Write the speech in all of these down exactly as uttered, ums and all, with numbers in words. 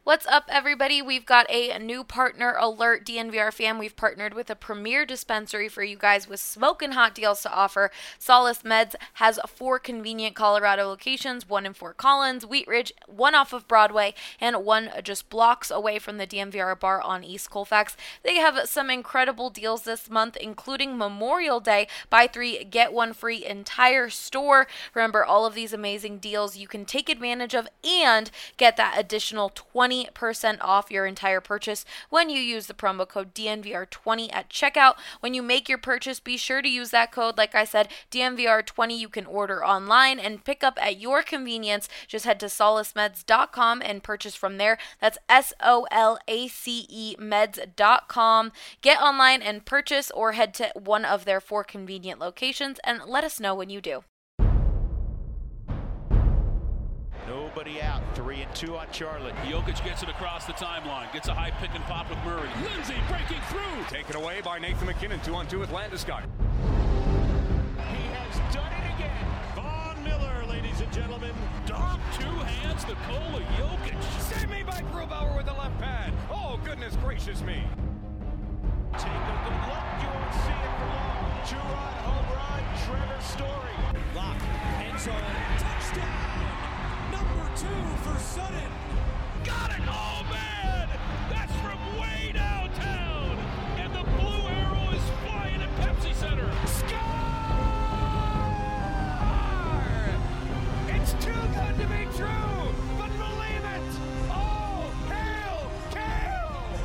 What's up, everybody? We've got a new partner alert, D N V R fam. We've partnered with a premier dispensary for you guys with smoking hot deals to offer. Solace Meds has four convenient Colorado locations, one in Fort Collins, Wheat Ridge, one off of Broadway, and one just blocks away from the D N V R bar on East Colfax. They have some incredible deals this month, including Memorial Day. Buy three, get one free entire store. Remember, all of these amazing deals you can take advantage of and get that additional twenty percent off your entire purchase when you use the promo code D N V R twenty at checkout. When you make your purchase, be sure to use that code. Like I said, D N V R twenty. You can order online and pick up at your convenience. Just head to solace meds dot com and purchase from there. That's S O L A C E meds dot com. Get online and purchase, or head to one of their four convenient locations and let us know when you do. Nobody out. Three and two on Charlotte. Jokic gets it across the timeline. Gets a high pick and pop with Murray. Lindsay breaking through. Taken away by Nathan McKinnon. Two on two with Landeskog. He has done it again. Von Miller, ladies and gentlemen. Dom, two hands, Nikola Jokic. Save me by Grubauer with the left pad. Oh, goodness gracious me. Take a good look. You won't see it for long. Two-run home run. Trevor Story. Lock. End zone. Touchdown. Number two for Sutton. Got it! Oh, man! That's from way downtown! And the blue arrow is flying at Pepsi Center. Score! It's too good to be true, but believe it! Oh, hail, Kale!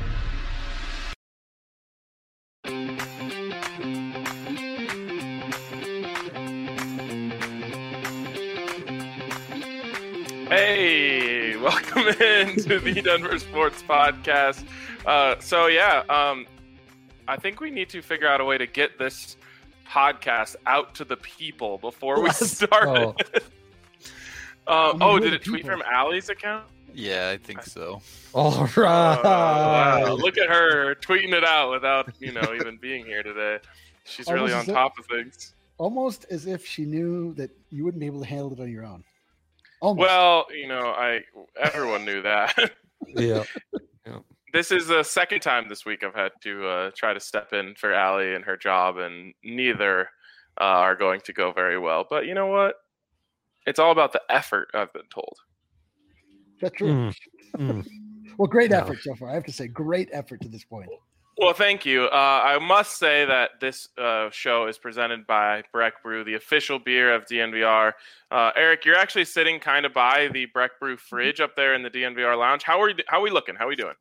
Hey, welcome into the Denver Sports Podcast. Uh, so yeah, um, I think we need to figure out a way to get this podcast out to the people before we Let's start. It. uh, I mean, oh, who did are it the tweet people? from Allie's account? Yeah, I think so. All right. Oh, wow. Look at her tweeting it out without, you know, even being here today. She's really on Almost as top of things. Almost as if she knew that you wouldn't be able to handle it on your own. Almost. Well, you know, I everyone knew that. Yeah. This is the second time this week I've had to uh, try to step in for Allie and her job, and neither uh, are going to go very well. But you know what? It's all about the effort, I've been told. That's true. Mm. Mm. Well, great Yeah. effort so far. I have to say, great effort to this point. Well, thank you. Uh, I must say that this uh, show is presented by Breck Brew, the official beer of D N V R. Uh, Eric, you're actually sitting kind of by the Breck Brew fridge up there in the D N V R lounge. How are you, how are we looking? How are we doing?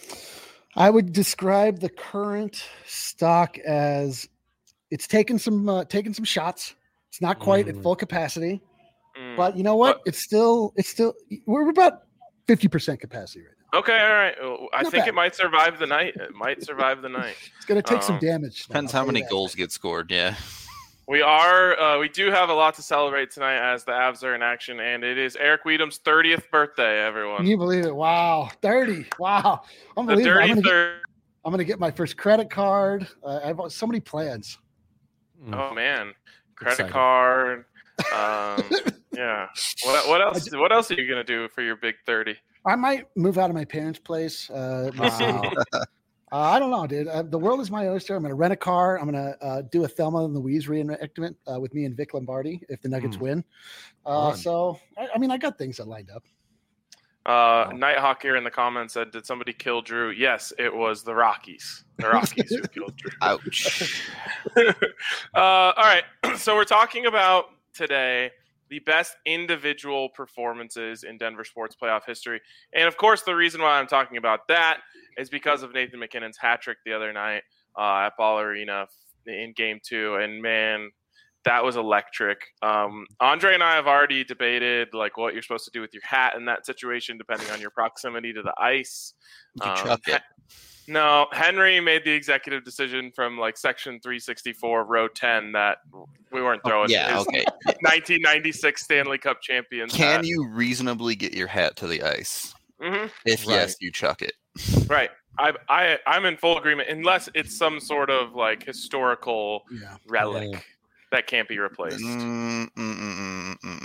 I would describe the current stock as it's taken some uh, taken some shots. It's not quite Mm. at full capacity, Mm. but you know what? But- it's still it's still we're about fifty percent capacity right now. Okay, all right. Well, I Not think bad. it might survive the night. It might survive the night. It's going to take some Um, damage. though, Depends I'll how tell you many that. goals get scored. Yeah. We are, uh, we do have a lot to celebrate tonight as the Avs are in action, and it is Eric Weedham's thirtieth birthday, everyone. Can you believe it? Wow, thirty! Wow, The unbelievable. I'm dirty gonna, get, third. I'm gonna get my first credit card. Uh, I have so many plans. Oh man, credit Exciting. card. Um, yeah. What what else? What else are you gonna do for your big thirty? I might move out of my parents' place. Uh, let's see. Wow. Uh, I don't know, dude. Uh, the world is my oyster. I'm going to rent a car. I'm going to uh, do a Thelma and Louise reenactment uh, with me and Vic Lombardi if the Nuggets Mm. win. Uh, Fun. so, I, I mean, I got things that lined up. Uh, Nighthawk here in the comments said, "Did somebody kill Drew?" Yes, it was the Rockies. The Rockies who killed Drew. Ouch. uh, all right, so we're talking about today the best individual performances in Denver sports playoff history. And of course, the reason why I'm talking about that is because of Nathan McKinnon's hat trick the other night uh, at Ball Arena in game two. And man, that was electric. Um, Andre and I have already debated like what you're supposed to do with your hat in that situation, depending on your proximity to the ice. You chuck it. No, Henry made the executive decision from like section three sixty-four, row ten, that we weren't throwing Yeah, his okay. nineteen ninety-six Stanley Cup champions. Can hat. you reasonably get your hat to the ice? Mm-hmm. If Right. yes, you chuck it. Right. I, I, I'm in full agreement, unless it's some sort of like historical Yeah. relic Yeah. that can't be replaced. Mm, mm, mm, mm, mm, mm.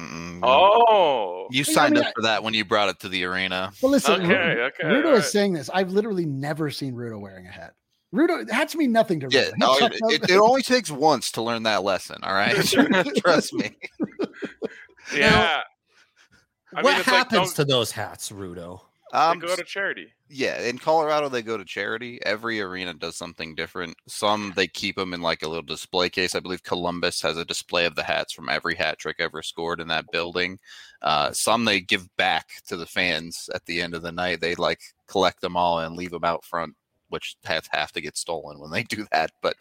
Oh. You I signed mean, up for that when you brought it to the arena. But listen, Okay, Ru- okay, Rudo alright. is saying this. I've literally never seen Rudo wearing a hat. Rudo hats mean nothing to Rudo. Yeah, He no, chucks it, out- it, it only takes once to learn that lesson. All right, trust me. Yeah. I what mean, it's like, happens don't- to those hats, Rudo? They Um, go to charity. yeah, in Colorado they go to charity. Every arena does something different. Some they keep them in like a little display case. I believe Columbus has a display of the hats from every hat trick ever scored in that building. Uh, some they give back to the fans at the end of the night. They like collect them all and leave them out front, which hats have to get stolen when they do that. But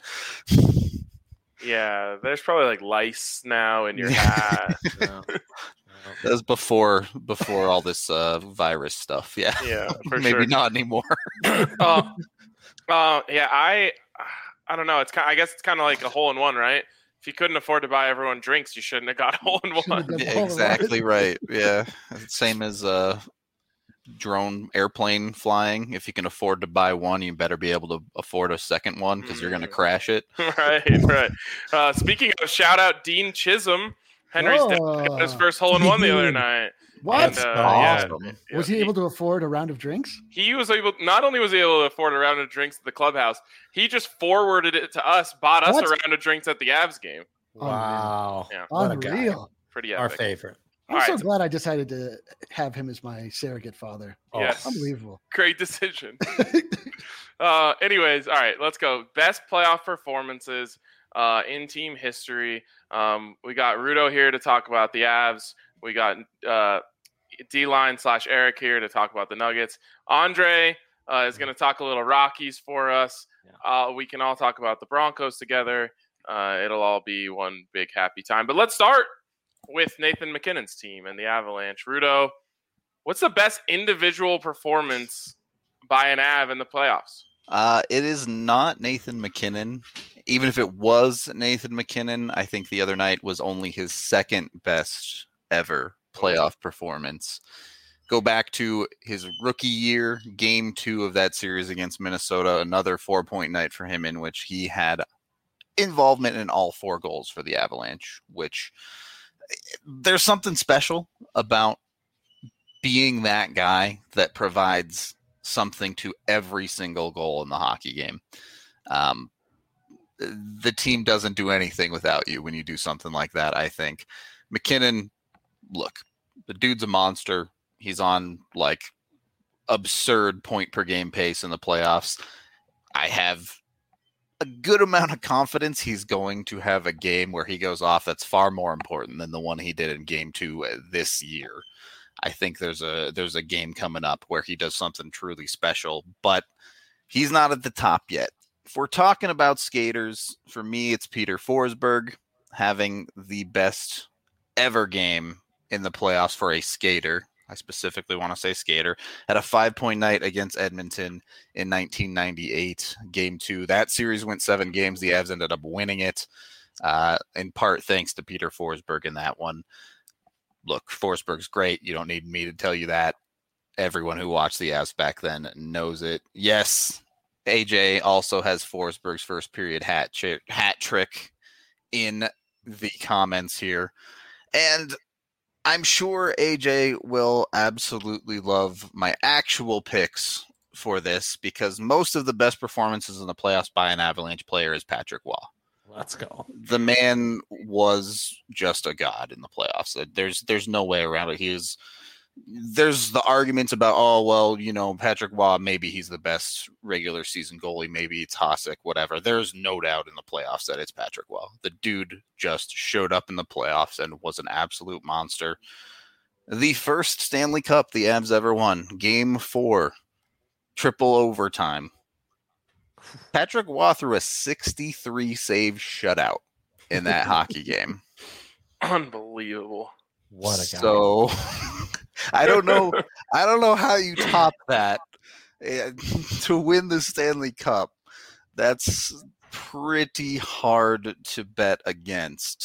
Yeah, there's probably like lice now in your hat. that was before before all this uh, virus stuff. Yeah, Yeah, for maybe sure. not anymore. uh, uh, yeah, I, I don't know. It's kind. I guess it's kind of like a hole in one, right? If you couldn't afford to buy everyone drinks, you shouldn't have got a hole in Shouldn't have one. done Yeah, all of exactly that. right. Yeah, same as uh, drone airplane flying. If you can afford to buy one, you better be able to afford a second one because you're going to Mm. crash it. right, right. Uh, speaking of, shout out Dean Chisholm. Henry's dad got his Oh. first hole in one the other Dude. night. What? And, uh, awesome. yeah, Was yeah, he able to afford a round of drinks? He was able. Not only was he able to afford a round of drinks at the clubhouse, he just forwarded it to us, bought us What? a round of drinks at the Avs game. Wow. Yeah. What a guy. Unreal. Pretty Our epic. favorite. I'm All so right. glad I decided to have him as my surrogate father. Oh, Yes. Unbelievable. Great decision. uh, anyways, all right, let's go. Best playoff performances uh, in team history. Um, we got Rudo here to talk about the Avs. We got uh, D-line slash Eric here to talk about the Nuggets. Andre uh, is going to talk a little Rockies for us. Uh, we can all talk about the Broncos together. Uh, it'll all be one big happy time. But let's start with Nathan McKinnon's team and the Avalanche. Rudo, what's the best individual performance by an Av in the playoffs? Uh, it is not Nathan McKinnon. Even if it was Nathan McKinnon, I think the other night was only his second best ever playoff performance. Go back to his rookie year, game two of that series against Minnesota, another four-point night for him in which he had involvement in all four goals for the Avalanche, which there's something special about being that guy that provides something to every single goal in the hockey game. Um, the team doesn't do anything without you when you do something like that, I think. McKinnon, look, the dude's a monster. He's on like absurd point per game pace in the playoffs. I have a good amount of confidence he's going to have a game where he goes off that's far more important than the one he did in game two this year. I think there's a there's a game coming up where he does something truly special, but he's not at the top yet. If we're talking about skaters, for me, it's Peter Forsberg having the best ever game in the playoffs for a skater. I specifically want to say skater. Had a five-point night against Edmonton in nineteen ninety-eight, game two. That series went seven games. The Avs ended up winning it, uh, in part thanks to Peter Forsberg in that one. Look, Forsberg's great. You don't need me to tell you that. Everyone who watched the Avs back then knows it. Yes, A J also has Forsberg's first period hat, ch- hat trick in the comments here. And I'm sure A J will absolutely love my actual picks for this because most of the best performances in the playoffs by an Avalanche player is Patrick Waugh. Let's go. The man was just a god in the playoffs. There's there's no way around it. He is. There's the arguments about, oh, well, you know, Patrick Waugh, maybe he's the best regular season goalie. Maybe it's Hasek, whatever. There's no doubt in the playoffs that it's Patrick Waugh. The dude just showed up in the playoffs and was an absolute monster. The first Stanley Cup the Avs ever won, game four, triple overtime. Patrick Waugh threw a sixty-three save shutout in that hockey game. Unbelievable. What a guy. So I don't know. I don't know how you top that uh, to win the Stanley Cup. That's pretty hard to bet against.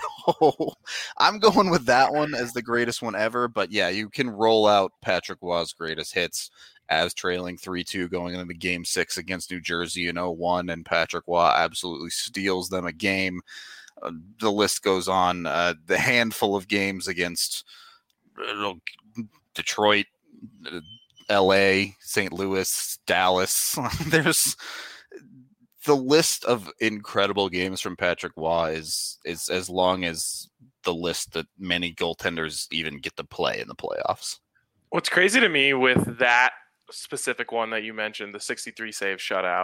So I'm going with that one as the greatest one ever. But yeah, you can roll out Patrick Waugh's greatest hits as trailing three two going into game six against New Jersey in oh one, and Patrick Waugh absolutely steals them a game. Uh, the list goes on. Uh, the handful of games against uh, Detroit, uh, L A, Saint Louis, Dallas. There's the list of incredible games from Patrick Waugh is is as long as the list that many goaltenders even get to play in the playoffs. What's crazy to me with that specific one that you mentioned, the sixty-three save shutout,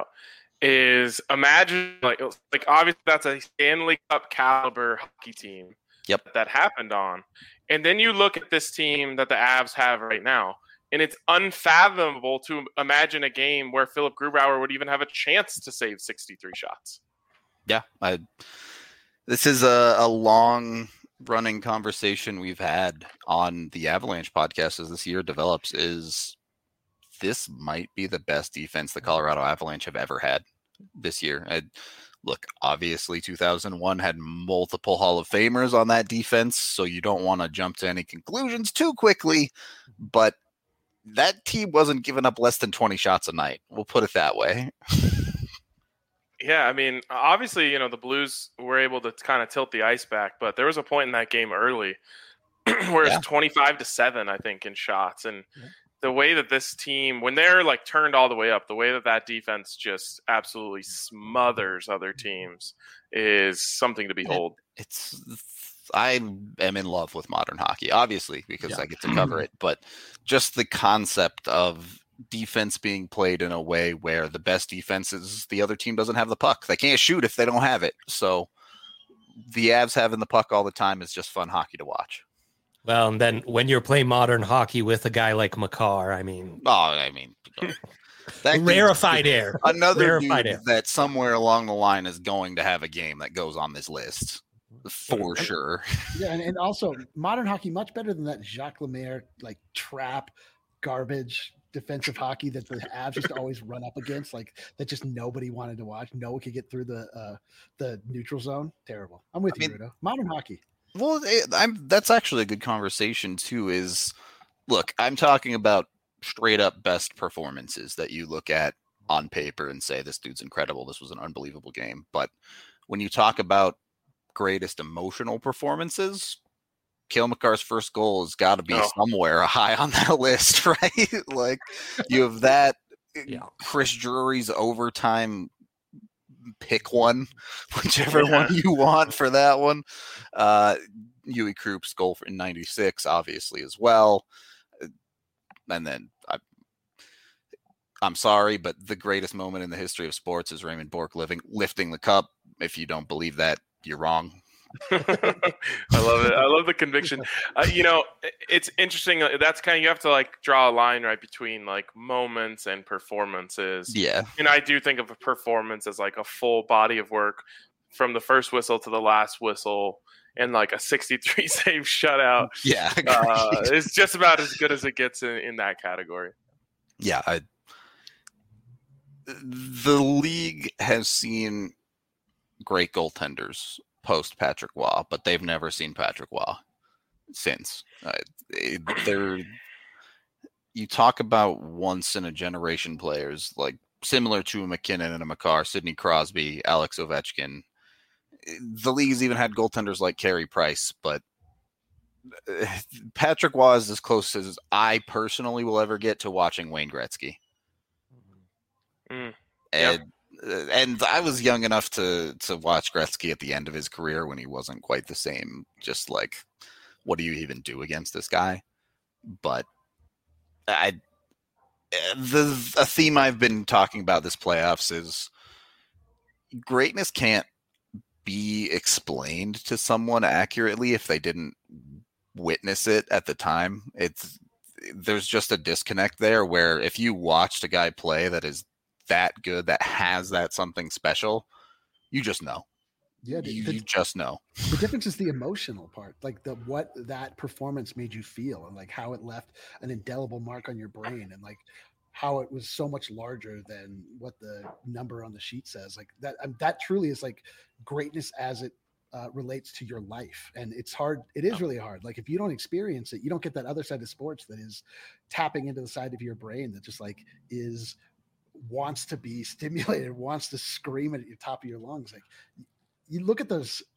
is imagine like like obviously that's a Stanley Cup caliber hockey team. Yep. That happened on. And then you look at this team that the Avs have right now, and it's unfathomable to imagine a game where Philip Grubauer would even have a chance to save sixty-three shots. Yeah, I, this is a, a long running conversation we've had on the Avalanche podcast as this year develops is this might be the best defense the Colorado Avalanche have ever had this year. I, look, obviously two thousand one had multiple Hall of Famers on that defense, so you don't want to jump to any conclusions too quickly, but that team wasn't giving up less than twenty shots a night. We'll put it that way. Yeah, I mean, obviously, you know, the Blues were able to kind of tilt the ice back, but there was a point in that game early where Yeah. it's twenty-five to seven, I think, in shots. And Yeah. the way that this team, when they're like turned all the way up, the way that that defense just absolutely smothers other teams is something to behold. It's I am in love with modern hockey, obviously, because Yeah. I get to cover it, but just the concept of defense being played in a way where the best defense is the other team doesn't have the puck. They can't shoot if they don't have it. So the Avs having the puck all the time is just fun hockey to watch. Well, and then when you're playing modern hockey with a guy like Makar, I mean, Oh, I mean, that rarefied air. another Rarefied dude air. that somewhere along the line is going to have a game that goes on this list for sure. Yeah, and, and also modern hockey much better than that Jacques Lemaire like trap garbage defensive hockey that the Avs used to always run up against, like that just nobody wanted to watch. No one could get through the uh, the neutral zone. Terrible. I'm with I you, mean- Rudo. Modern hockey. Well, it, I'm that's actually a good conversation too. Is look, I'm talking about straight up best performances that you look at on paper and say this dude's incredible. This was an unbelievable game. But when you talk about greatest emotional performances, Cale Makar's first goal has got to be Oh. somewhere high on that list, right? Like you have that. Yeah. Chris Drury's overtime. Pick one, whichever Yeah. one you want for that one. Uh, Yui Kroup's goal in ninety-six, obviously, as well. And then I, I'm sorry, but the greatest moment in the history of sports is Raymond Bourque living, lifting the cup. If you don't believe that, you're wrong. I love it. I love the conviction. Uh, you know, i- it's interesting. uh, That's kind of, you have to like draw a line right between like moments and performances. Yeah. And I do think of a performance as like a full body of work from the first whistle to the last whistle, and like a sixty-three save shutout. Yeah. Uh, agreed. it's just about as good as it gets in, in that category. yeah. I, the league has seen great goaltenders post Patrick Waugh, but they've never seen Patrick Waugh since. Uh, it- they're you talk about once in a generation players like similar to a McKinnon and a Makar, Sidney Crosby, Alex Ovechkin. The league's even had goaltenders like Carey Price, but uh, Patrick Waugh is as close as I personally will ever get to watching Wayne Gretzky. Mm. And uh, and I was young enough to to watch Gretzky at the end of his career when he wasn't quite the same. Just like, what do you even do against this guy? But I the a theme I've been talking about this playoffs is greatness can't be explained to someone accurately if they didn't witness it at the time. It's there's just a disconnect there where if you watched a guy play that is that good, that has that something special, you just know. Yeah, the, You, the, you just know. the difference is the emotional part, like the what that performance made you feel, and like how it left an indelible mark on your brain, and like how it was so much larger than what the number on the sheet says. Like that, um, that truly is like greatness as it uh, relates to your life, and it's hard. It is really hard. Like if you don't experience it, you don't get that other side of sports that is tapping into the side of your brain that just like is wants to be stimulated, wants to scream at the top of your lungs. Like you look at those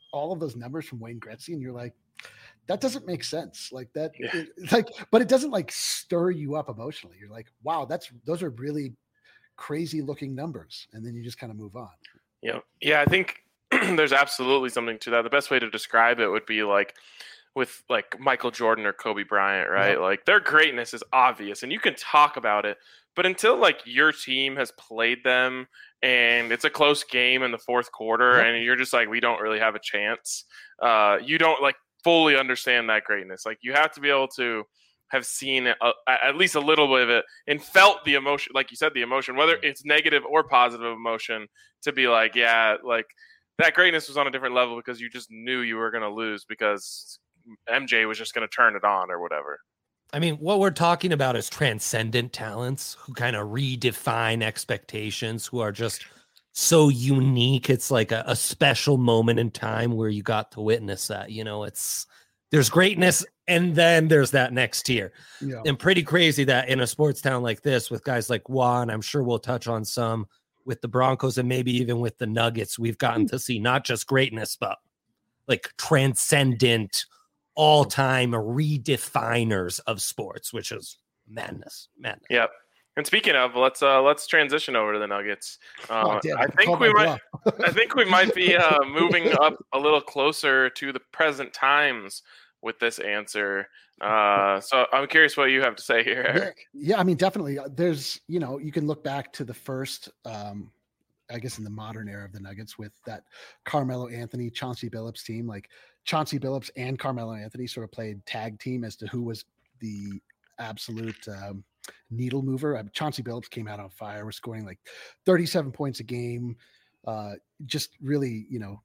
all of those numbers from Wayne Gretzky, and you're like, that doesn't make sense. Like that, Yeah. it, like, but it doesn't like stir you up emotionally. You're like, wow, that's those are really crazy looking numbers, and then you just kind of move on. Yeah, yeah, I think there's absolutely something to that. The best way to describe it would be like with like Michael Jordan or Kobe Bryant, right? Yep. Like their greatness is obvious and you can talk about it, but until like your team has played them and it's a close game in the fourth quarter Yep. and you're just like, we don't really have a chance. Uh, you don't like fully understand that greatness. Like you have to be able to have seen it, uh, at least a little bit of it and felt the emotion, like you said, the emotion, whether it's negative or positive emotion, to be like, yeah, like that greatness was on a different level because you just knew you were going to lose because M J was just going to turn it on or whatever. I mean, what we're talking about is transcendent talents who kind of redefine expectations, who are just so unique. It's like a, a special moment in time where you got to witness that. You know, it's there's greatness and then there's that next tier. Yeah. And pretty crazy that in a sports town like this with guys like Juan, I'm sure we'll touch on some with the Broncos and maybe even with the Nuggets, we've gotten to see not just greatness, but like transcendent, all-time redefiners of sports, which is madness, madness. Yep. And speaking of, let's uh, let's transition over to the Nuggets. Uh, Oh, damn, I I think called we my might. bluff. I think we might be uh, moving up a little closer to the present times with this answer. Uh, so I'm curious what you have to say here, Eric. Yeah, yeah, I mean, definitely. uh, There's, you know, you can look back to the first, um, I guess, in the modern era of the Nuggets with that Carmelo Anthony, Chauncey Billups team. Like Chauncey Billups and Carmelo Anthony sort of played tag team as to who was the absolute um, needle mover. I mean, Chauncey Billups came out on fire, was scoring like thirty-seven points a game. Uh, just really, you know,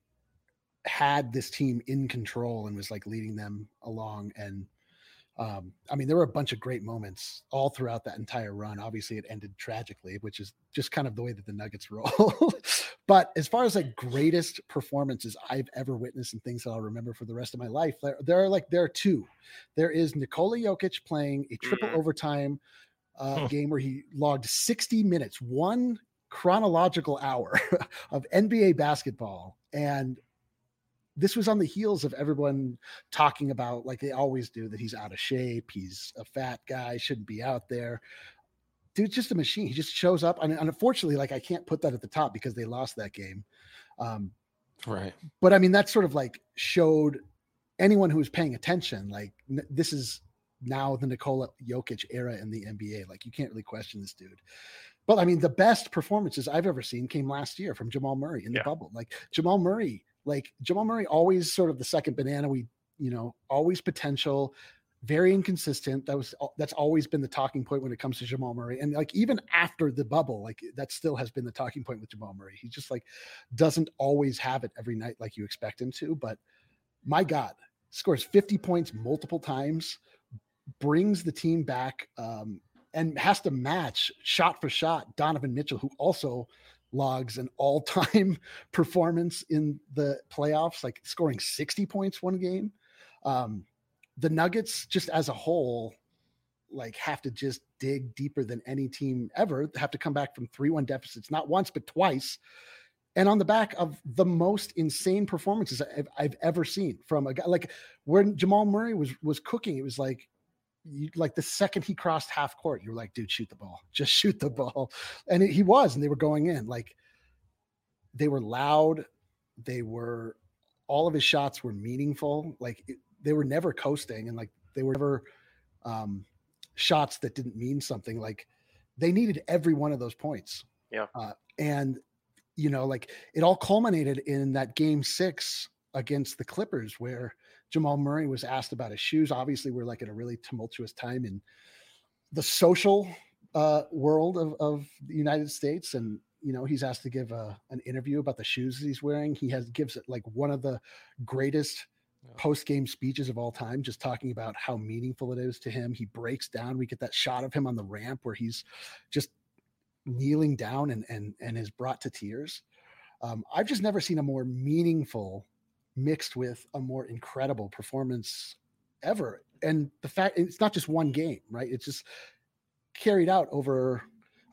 had this team in control and was like leading them along. And um, I mean, there were a bunch of great moments all throughout that entire run. Obviously, it ended tragically, which is just kind of the way that the Nuggets roll. But as far as like greatest performances I've ever witnessed and things that I'll remember for the rest of my life, there, there are like there are two. There is Nikola Jokic playing a triple Mhm. overtime uh, Huh. game where he logged sixty minutes, one chronological hour of N B A basketball, and this was on the heels of everyone talking about, like they always do, that he's out of shape, he's a fat guy, shouldn't be out there. Dude's just a machine. He just shows up. And, and unfortunately, like I can't put that at the top because they lost that game. Um, Right. but I mean, that sort of like showed anyone who was paying attention, like n- this is now the Nikola Jokic era in the N B A. Like you can't really question this dude. But I mean, the best performances I've ever seen came last year from Jamal Murray in the Yeah. bubble. Like Jamal Murray, like Jamal Murray, always sort of the second banana. We, you know, always potential, very inconsistent. That was that's always been the talking point when it comes to Jamal Murray. And like even after the bubble, like that still has been the talking point with Jamal Murray. He just like doesn't always have it every night like you expect him to. But my God, scores fifty points multiple times, brings the team back, um, and has to match shot for shot Donovan Mitchell, who also logs an all-time performance in the playoffs, like scoring sixty points one game. Um, the Nuggets, just as a whole, like have to just dig deeper than any team ever, have to come back from three one deficits, not once, but twice. And on the back of the most insane performances I've, I've ever seen from a guy, like when Jamal Murray was was cooking, it was like, you, like the second he crossed half court, you were like, dude, shoot the ball, just shoot the ball. And it, he was, and they were going in. Like they were loud. They were, all of his shots were meaningful. Like it, they were never coasting, and like they were never um, shots that didn't mean something. Like they needed every one of those points. Yeah. Uh, and you know, like it all culminated in that game six against the Clippers where Jamal Murray was asked about his shoes. Obviously, we're like at a really tumultuous time in the social uh, world of, of the United States. And, you know, he's asked to give a, an interview about the shoes that he's wearing. He has gives it like one of the greatest post-game speeches of all time, just talking about how meaningful it is to him. He breaks down. We get that shot of him on the ramp where he's just kneeling down and, and, and is brought to tears. Um, I've just never seen a more meaningful mixed with a more incredible performance ever. And the fact it's not just one game, right? It's just carried out over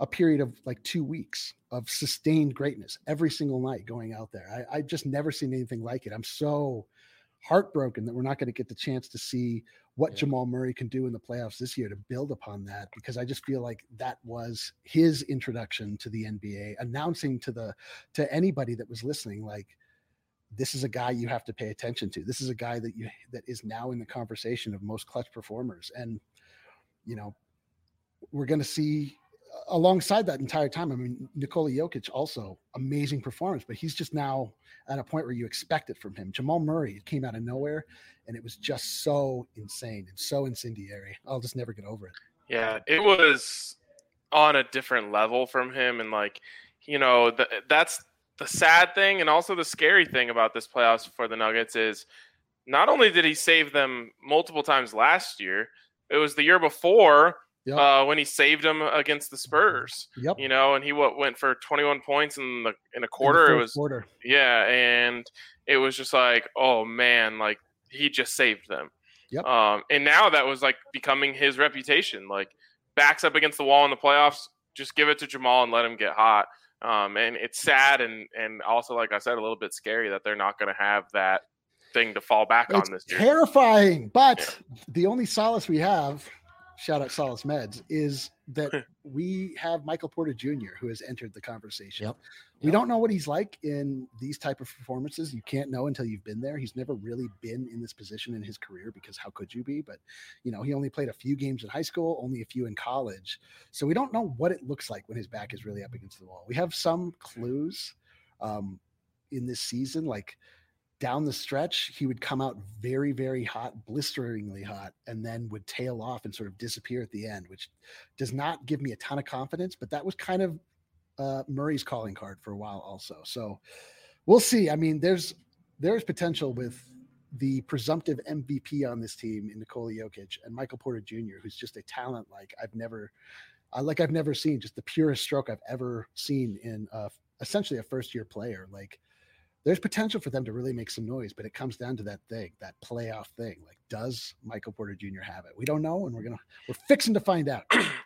a period of like two weeks of sustained greatness every single night going out there. I, I just never seen anything like it. I'm so heartbroken that we're not going to get the chance to see what yeah. Jamal Murray can do in the playoffs this year to build upon that, because I just feel like that was his introduction to the N B A, announcing to the to anybody that was listening, like, this is a guy you have to pay attention to. This is a guy that you that is now in the conversation of most clutch performers. And, you know, we're going to see alongside that entire time. I mean, Nikola Jokic also amazing performance, but he's just now at a point where you expect it from him. Jamal Murray, it came out of nowhere, and it was just so insane and so incendiary. I'll just never get over it. Yeah, it was on a different level from him. And like, you know, the, that's the sad thing. And also the scary thing about this playoffs for the Nuggets is not only did he save them multiple times last year, it was the year before Yep. Uh, when he saved them against the Spurs, yep. you know, and he what, went for twenty-one points in the in a quarter. In it was quarter. Yeah, and it was just like, oh man, like he just saved them. Yep. Um, and now that was like becoming his reputation. Like, backs up against the wall in the playoffs, just give it to Jamal and let him get hot. Um, and it's sad and and also, like I said, a little bit scary that they're not going to have that thing to fall back it's on this year. Terrifying, but yeah. the only solace we have. Shout out Solace Meds, is that we have Michael Porter Junior who has entered the conversation. Yep. We Yep. don't know what he's like in these type of performances. You can't know until you've been there. He's never really been in this position in his career, because how could you be? But, you know, he only played a few games in high school, only a few in college. So we don't know what it looks like when his back is really up against the wall. We have some clues um, in this season, like, down the stretch, he would come out very, very hot, blisteringly hot, and then would tail off and sort of disappear at the end, which does not give me a ton of confidence, but that was kind of uh, Murray's calling card for a while also. So we'll see. I mean, there's there's potential with the presumptive M V P on this team in Nikola Jokic and Michael Porter Junior, who's just a talent like I've never, uh, like I've never seen, just the purest stroke I've ever seen in uh, essentially a first-year player. Like, there's potential for them to really make some noise, but it comes down to that thing, that playoff thing. Like, does Michael Porter Junior have it? We don't know, and we're gonna we're fixing to find out.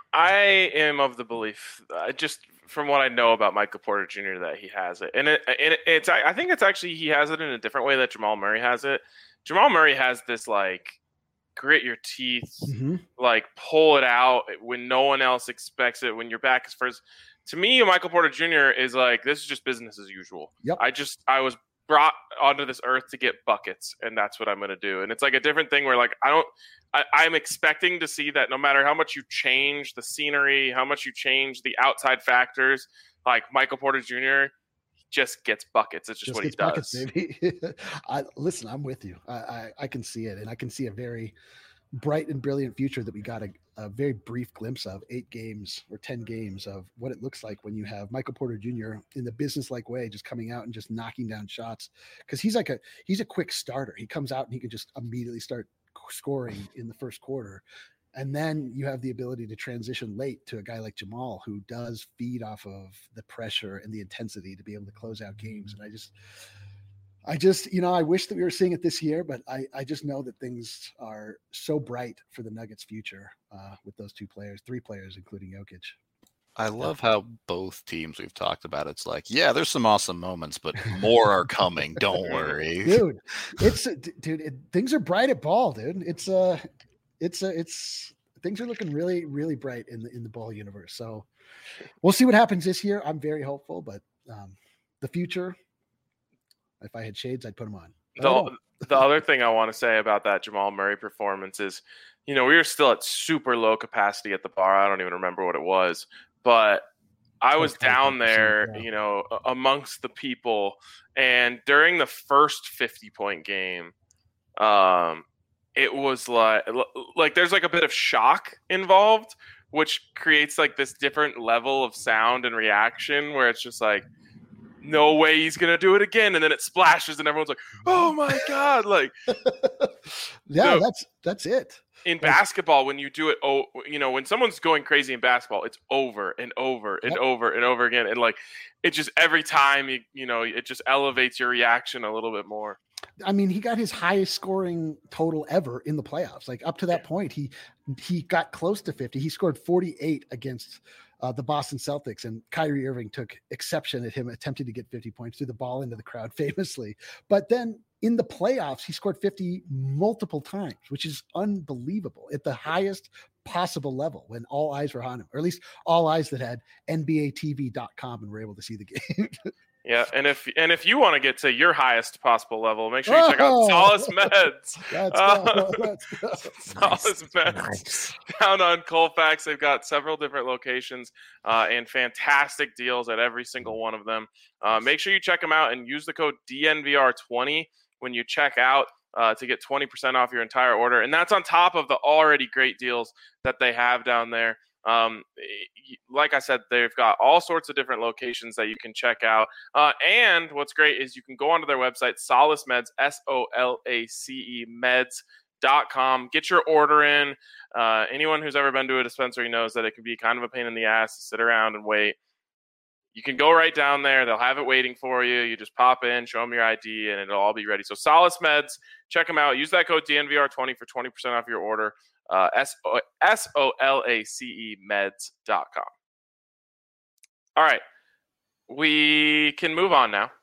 I am of the belief, uh, just from what I know about Michael Porter Junior, that he has it, and it, and it, it's I think it's actually he has it in a different way that Jamal Murray has it. Jamal Murray has this like grit your teeth, mm-hmm. like pull it out when no one else expects it, when your back is first. To me, Michael Porter Junior is like, this is just business as usual. Yep. I just, I was brought onto this earth to get buckets, and that's what I'm going to do. And it's like a different thing where, like, I don't, I, I'm expecting to see that no matter how much you change the scenery, how much you change the outside factors, like Michael Porter Junior just gets buckets. It's just, just what he does. Buckets, baby. I, listen, I'm with you. I, I, I can see it, and I can see a very bright and brilliant future that we got a, a very brief glimpse of, eight games or ten games of what it looks like when you have Michael Porter Junior in the business-like way, just coming out and just knocking down shots. Cause he's like a, he's a quick starter. He comes out and he can just immediately start scoring in the first quarter. And then you have the ability to transition late to a guy like Jamal, who does feed off of the pressure and the intensity to be able to close out games. And I just, I just, you know, I wish that we were seeing it this year, but I, I just know that things are so bright for the Nuggets' future uh, with those two players, three players, including Jokic. I love how both teams we've talked about, it's like, yeah, there's some awesome moments, but more are coming. Don't worry, dude. It's dude. It, things are bright at ball, dude. It's uh it's uh, it's things are looking really, really bright in the in the ball universe. So we'll see what happens this year. I'm very hopeful, but um, the future. If I had shades, I'd put them on. The, the other thing I want to say about that Jamal Murray performance is, you know, we were still at super low capacity at the bar. I don't even remember what it was, but I was down there, yeah. you know, amongst the people. And during the first fifty point game, um, it was like, like there's like a bit of shock involved, which creates like this different level of sound and reaction where it's just like, no way he's gonna do it again, and then it splashes and everyone's like, oh my god. Like, yeah, so that's that's it. In basketball, when you do it, oh, you know, when someone's going crazy in basketball, it's over and over and yep. over and over again, and like it just every time you you know it just elevates your reaction a little bit more. I mean, he got his highest scoring total ever in the playoffs. Like up to that point, he he got close to fifty. He scored forty-eight against uh, the Boston Celtics, and Kyrie Irving took exception at him attempting to get fifty points, threw the ball into the crowd famously. But then in the playoffs, he scored fifty multiple times, which is unbelievable at the highest possible level when all eyes were on him, or at least all eyes that had N B A T V dot com and were able to see the game. Yeah, and if and if you want to get to your highest possible level, make sure you check out Solace Meds. Let's Uh, go. Let's go. Solace Meds Nice. down on Colfax. They've got several different locations uh, and fantastic deals at every single one of them. Uh, make sure you check them out and use the code D N V R twenty when you check out uh, to get twenty percent off your entire order. And that's on top of the already great deals that they have down there. Um, like I said, they've got all sorts of different locations that you can check out. Uh, and what's great is you can go onto their website, Solace Meds, S O L A C E meds dot com. Get your order in. Uh, anyone who's ever been to a dispensary knows that it can be kind of a pain in the ass to sit around and wait. You can go right down there. They'll have it waiting for you. You just pop in, show them your I D, and it'll all be ready. So Solace Meds, check them out. Use that code D N V R twenty for twenty percent off your order. Uh, S O L A C E meds dot com. All right. We can move on now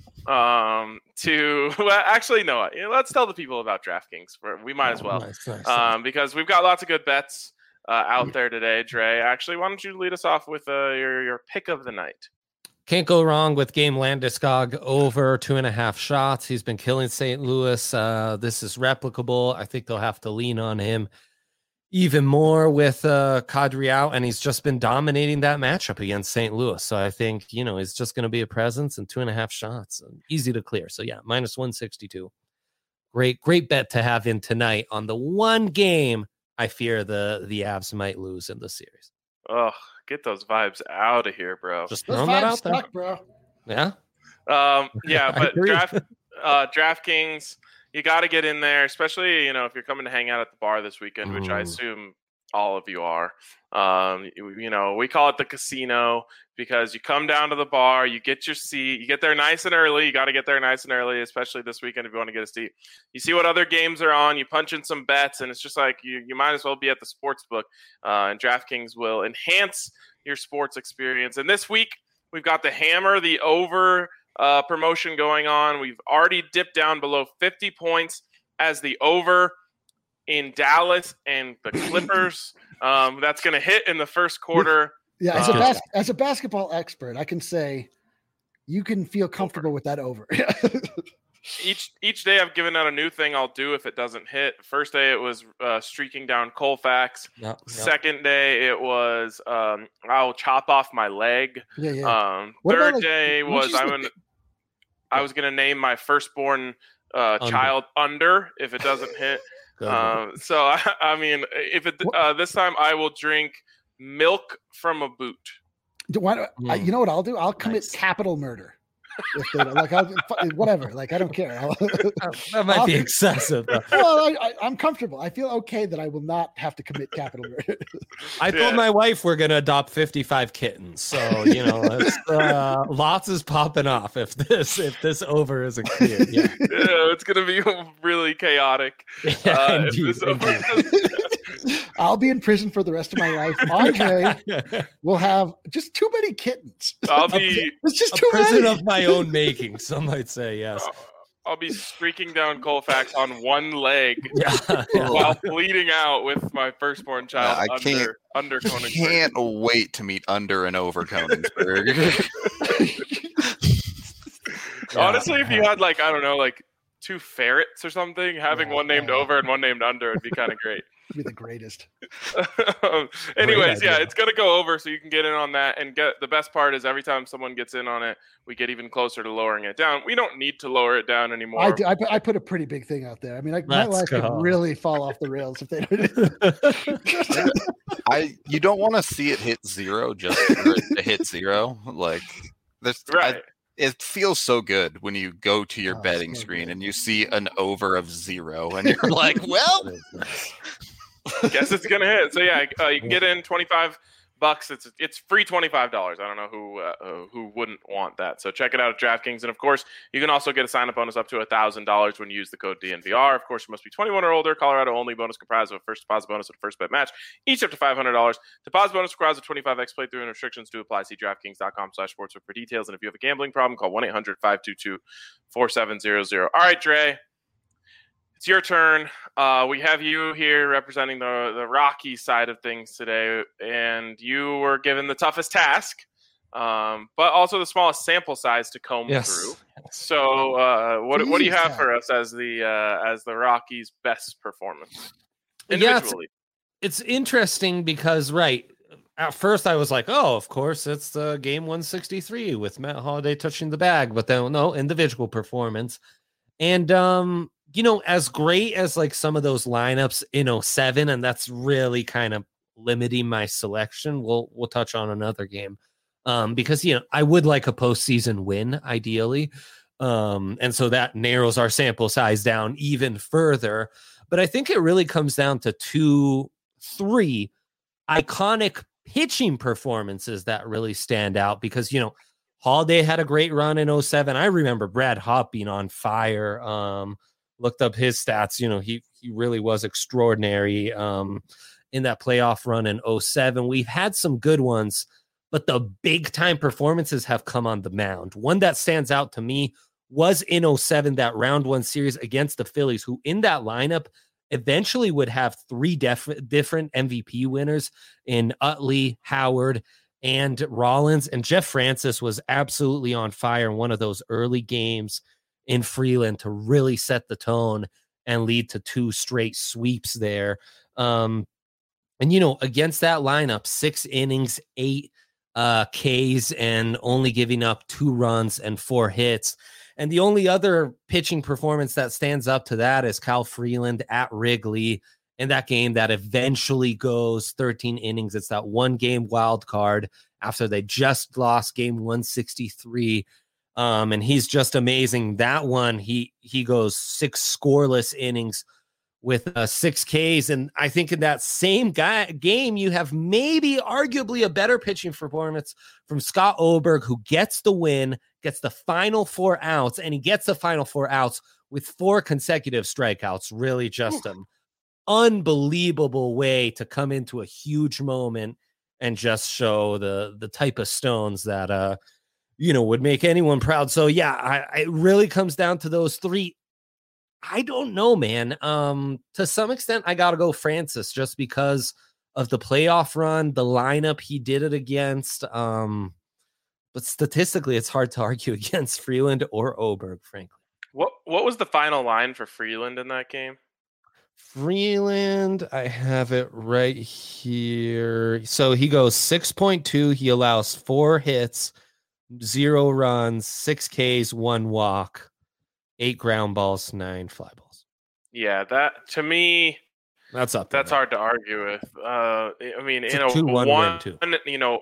um, to, well, actually, no, let's tell the people about DraftKings. We might as well, Nice, nice, um, because we've got lots of good bets uh, out there today, Dre. Actually, why don't you lead us off with uh, your, your pick of the night? Can't go wrong with Game Landeskog over two and a half shots. He's been killing Saint Louis. Uh, this is replicable. I think they'll have to lean on him even more with uh, Kadri out, and he's just been dominating that matchup against Saint Louis. So I think, you know, it's just going to be a presence and two and a half shots. Easy to clear. So yeah, minus one sixty-two. Great, great bet to have in tonight on the one game I fear the, the Avs might lose in the series. Oh, get those vibes out of here, bro. Just Those throwing that vibes out there. stuck, bro. Yeah. Um, yeah, I but agree. draft uh, DraftKings, you got to get in there, especially, you know, if you're coming to hang out at the bar this weekend, which I Mm. assume all of you are. Um, you, you know, we call it the casino because you come down to the bar, you get your seat, you get there nice and early. You got to get there nice and early, especially this weekend if you want to get a seat. You see what other games are on, you punch in some bets, and it's just like you, you might as well be at the sports book. Uh, and DraftKings will enhance your sports experience. And this week, we've got the Hammer, the over uh, promotion going on. We've already dipped down below fifty points as the over in Dallas and the Clippers. Um, that's going to hit in the first quarter. Yeah, as a Uh, bas- as a basketball expert, I can say you can feel comfortable with that over. Each each day I've given out a new thing I'll do if it doesn't hit. First day it was uh, streaking down Colfax. Yep, yep. Second day it was um, I'll chop off my leg. yeah, yeah. Um, What about, third like, day why don't was you I'm just- gonna, I was gonna name my firstborn uh, Under. child under if it doesn't hit. Good. Um, so I, I mean, if it uh, this time I will drink milk from a boot. Do- why don't- I, Mm. you know what I'll do? I'll commit Nice. capital murder. If they don't- like, I'll, whatever. Like, I don't care. I'll, that might be I'll- excessive. Though. well, I, I, I'm comfortable. I feel okay that I will not have to commit capital murder. I Yeah. told my wife we're gonna adopt fifty-five kittens, so you know, it's, uh, lots is popping off if this if this over isn't clear. Yeah, Yeah, it's gonna be really chaotic. yeah Uh, if indeed, this over- indeed. I'll be in prison for the rest of my life. Andre will have just too many kittens. I'll be It's just A too prison many. of my own making, some might say. Yes. I'll be streaking down Colfax on one leg Yeah. yeah. while bleeding out with my firstborn child I can't- under under I Konigsberg. can't wait to meet under and over Konigsberg. Honestly, if you had like I don't know, like two ferrets or something, having Yeah, one named yeah. over and one named under would be kind of great. Be the greatest. Um, Anyways, yeah, idea. it's gonna go over, so you can get in on that. And get the best part is every time someone gets in on it, we get even closer to lowering it down. We don't need to lower it down anymore. I, do, I, put- I put a pretty big thing out there. I mean, like, my Let's life go. could really fall off the rails if they don't. I you don't want to see it hit zero just for it to hit zero. Like there's I- Right. it feels so good when you go to your Oh, betting so screen good. and you see an over of zero and you're like, well, Guess it's gonna hit. So yeah, uh, you can get in twenty-five bucks. It's it's free twenty-five dollars. I don't know who uh, who wouldn't want that. So check it out at DraftKings. And of course, you can also get a sign-up bonus up to one thousand dollars when you use the code D N V R. Of course, you must be twenty-one or older. Colorado only. Bonus comprised of a first deposit bonus and a first bet match, each up to five hundred dollars. Deposit bonus requires a twenty-five x playthrough and restrictions to apply. See DraftKings.com slash sportsbook for details. And if you have a gambling problem, call one eight hundred five two two four seven zero zero. All right, Dre. It's your turn. Uh, we have you here representing the, the Rocky side of things today, and you were given the toughest task, um, but also the smallest sample size to comb yes. through. So, uh, what what do you have for us as the uh, as the Rockies' best performance individually? Yeah, it's, it's interesting because right at first I was like, oh, of course it's the game one sixty-three with Matt Holliday touching the bag, but then no individual performance, and um. You know, as great as like some of those lineups in oh seven, and that's really kind of limiting my selection. We'll we'll touch on another game um, because, you know, I would like a postseason win ideally. Um, and so that narrows our sample size down even further. But I think it really comes down to two, three iconic pitching performances that really stand out because, you know, Holiday had a great run in oh seven. I remember Brad Hawpe being on fire. Um, Looked up his stats. You know, he he really was extraordinary um, in that playoff run in oh seven. We've had some good ones, but the big time performances have come on the mound. One that stands out to me was in oh seven, that round one series against the Phillies, who in that lineup eventually would have three def- different M V P winners in Utley, Howard, and Rollins. And Jeff Francis was absolutely on fire in one of those early games in Freeland to really set the tone and lead to two straight sweeps there. Um, and, you know, against that lineup, six innings, eight uh, Ks, and only giving up two runs and four hits. And the only other pitching performance that stands up to that is Kyle Freeland at Wrigley in that game that eventually goes thirteen innings. It's that one game wild card after they just lost game one sixty-three. Um, and he's just amazing. That one, he he goes six scoreless innings with uh, six Ks. And I think in that same guy, game, you have maybe arguably a better pitching performance from Scott Oberg, who gets the win, gets the final four outs, and he gets the final four outs with four consecutive strikeouts. Really just an unbelievable way to come into a huge moment and just show the the type of stones that uh you know, would make anyone proud. So yeah, I, it really comes down to those three. I don't know, man. Um, to some extent, I got to go Francis just because of the playoff run, the lineup he did it against. Um, but statistically, it's hard to argue against Freeland or Oberg, frankly. What What was the final line for Freeland in that game? Freeland, I have it right here. So he goes six point two. He allows four hits, zero runs, six Ks, one walk, eight ground balls, nine fly balls. Yeah, that to me, that's up. That's hard to argue with. Uh, I mean, it's in a a two-one one, win too. You know,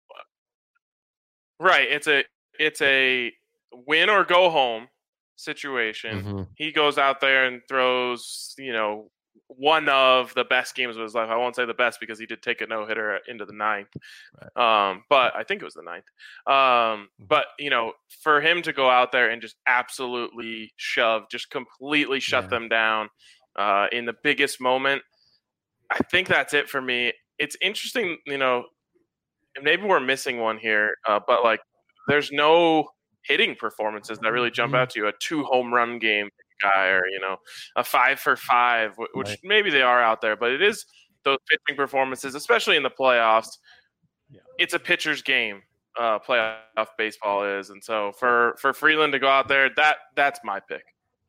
right? It's a it's a win or go home situation. Mm-hmm. He goes out there and throws, you know, one of the best games of his life. I won't say the best because he did take a no-hitter into the ninth. Right. Um, but I think it was the ninth. Um, but, you know, for him to go out there and just absolutely shove, just completely shut yeah. them down uh, in the biggest moment, I think that's it for me. It's interesting, you know, maybe we're missing one here, uh, but, like, there's no hitting performances that really jump out to you. A two home run game guy, or, you know, a five for five, which right. maybe they are out there, but it is those pitching performances, especially in the playoffs. Yeah. It's a pitcher's game. Uh, playoff baseball is, and so for for Freeland to go out there, that that's my pick.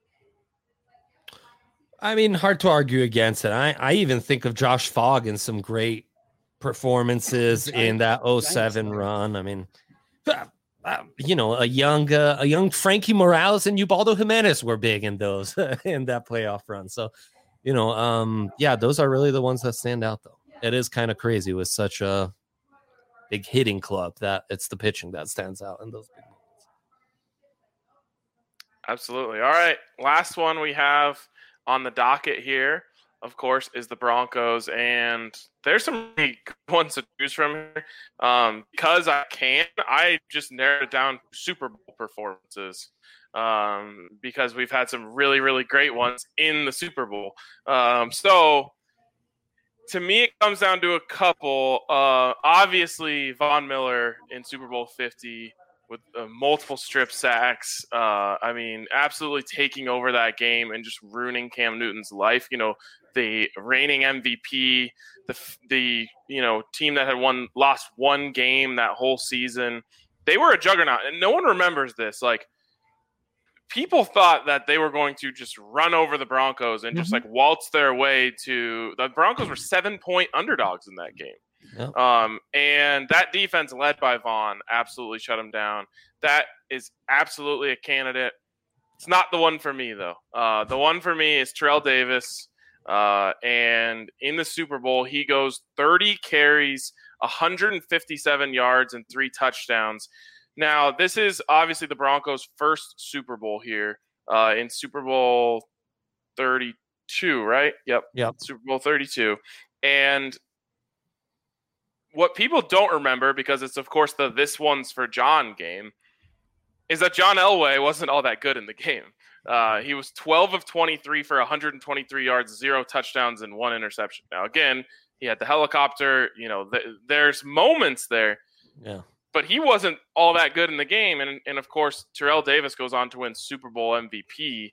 I mean, hard to argue against it. I I even think of Josh Fogg in some great performances in that oh seven run. I mean. Uh, you know, a young, uh, a young Frankie Morales and Ubaldo Jimenez were big in those in that playoff run. So, you know, um, yeah, those are really the ones that stand out. Though it is kind of crazy with such a big hitting club that it's the pitching that stands out in those big moments. Absolutely. All right, last one we have on the docket here. of course, is the Broncos, and there's some really good ones to choose from here. Um, because I can, I just narrowed it down to Super Bowl performances. Um, because we've had some really, really great ones in the Super Bowl. Um, so to me, it comes down to a couple. Uh, obviously, Von Miller in Super Bowl fifty with uh, multiple strip sacks. Uh, I mean, absolutely taking over that game and just ruining Cam Newton's life. You know, the reigning M V P, the the you know team that had won lost one game that whole season. They were a juggernaut, and no one remembers this. Like, people thought that they were going to just run over the Broncos and just mm-hmm. like waltz their way to the Broncos were seven point underdogs in that game. Yep. Um, and that defense led by Vaughn absolutely shut them down. That is absolutely a candidate. It's not the one for me though. Uh, the one for me is Terrell Davis. Uh, and in the Super Bowl, he goes thirty carries, one hundred fifty-seven yards and three touchdowns. Now, this is obviously the Broncos' first Super Bowl here uh, in Super Bowl thirty-two, right? Yep. Yep. Super Bowl thirty-two. And what people don't remember, because it's, of course, the This One's for John game, is that John Elway wasn't all that good in the game. Uh, he was twelve of twenty-three for one hundred twenty-three yards, zero touchdowns, and one interception. Now, again, he had the helicopter. You know, th- there's moments there. Yeah. But he wasn't all that good in the game. And, and of course, Terrell Davis goes on to win Super Bowl M V P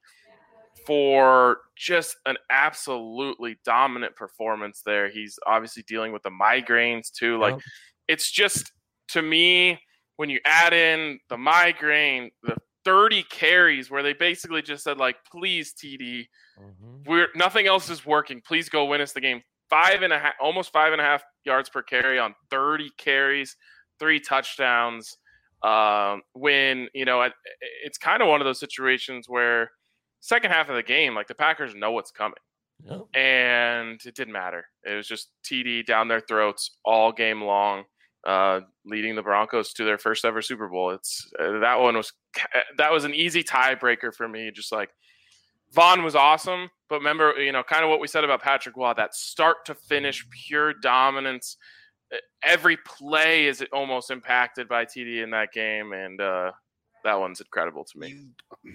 for just an absolutely dominant performance there. He's obviously dealing with the migraines too. Like, yeah. It's just, to me, when you add in the migraine, the thirty carries where they basically just said, like, please, T D, mm-hmm. we're nothing else is working. Please go win us the game. Five and a half, almost five and a half yards per carry on thirty carries. Three touchdowns. Um, when, you know, it, it's kind of one of those situations where second half of the game, like, the Packers know what's coming. Yep. And it didn't matter. It was just T D down their throats all game long, uh, leading the Broncos to their first ever Super Bowl. It's uh, that one was that was an easy tiebreaker for me. Just like, Vaughn was awesome, but remember, you know, kind of what we said about Patrick Waugh, that start to finish pure dominance. Every play is almost impacted by T D in that game, and uh, that one's incredible to me.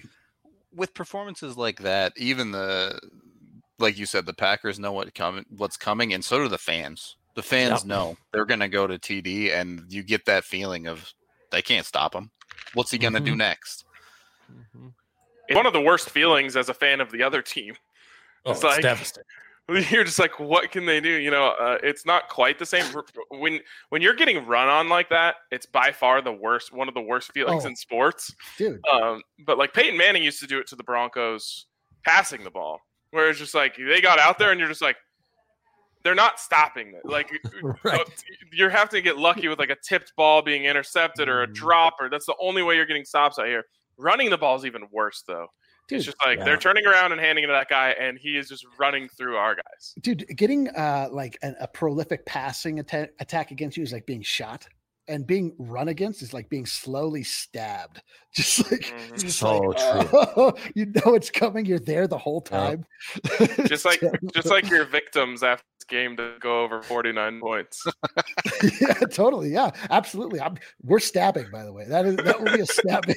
With performances like that, even the, like you said, the Packers know what coming, what's coming, and so do the fans. The fans yep. know they're going to go to T D, and you get that feeling of they can't stop him. What's he going to mm-hmm. do next? Mm-hmm. It's one of the worst feelings as a fan of the other team. Oh, it's, it's like, devastating. You're just like, what can they do? You know, uh, it's not quite the same. When when you're getting run on like that, it's by far the worst, one of the worst feelings oh, in sports. Dude. Um, but like Peyton Manning used to do it to the Broncos passing the ball, where it's just like they got out there and you're just like, they're not stopping it. Like, right. you have to get lucky with like a tipped ball being intercepted or a drop, or that's the only way you're getting stops out here. Running the ball is even worse, though. Dude, it's just like yeah. they're turning around and handing it to that guy, and he is just running through our guys. Dude, getting uh, like a, a prolific passing atta- attack against you is like being shot, and being run against is like being slowly stabbed. Just like, mm-hmm. just so like true. Oh, you know it's coming. You're there the whole time. Yeah. just like, just like your victims after this game to go over forty-nine points. Yeah, totally. Yeah, absolutely. I'm, we're stabbing, by the way. That is that will be a stabbing.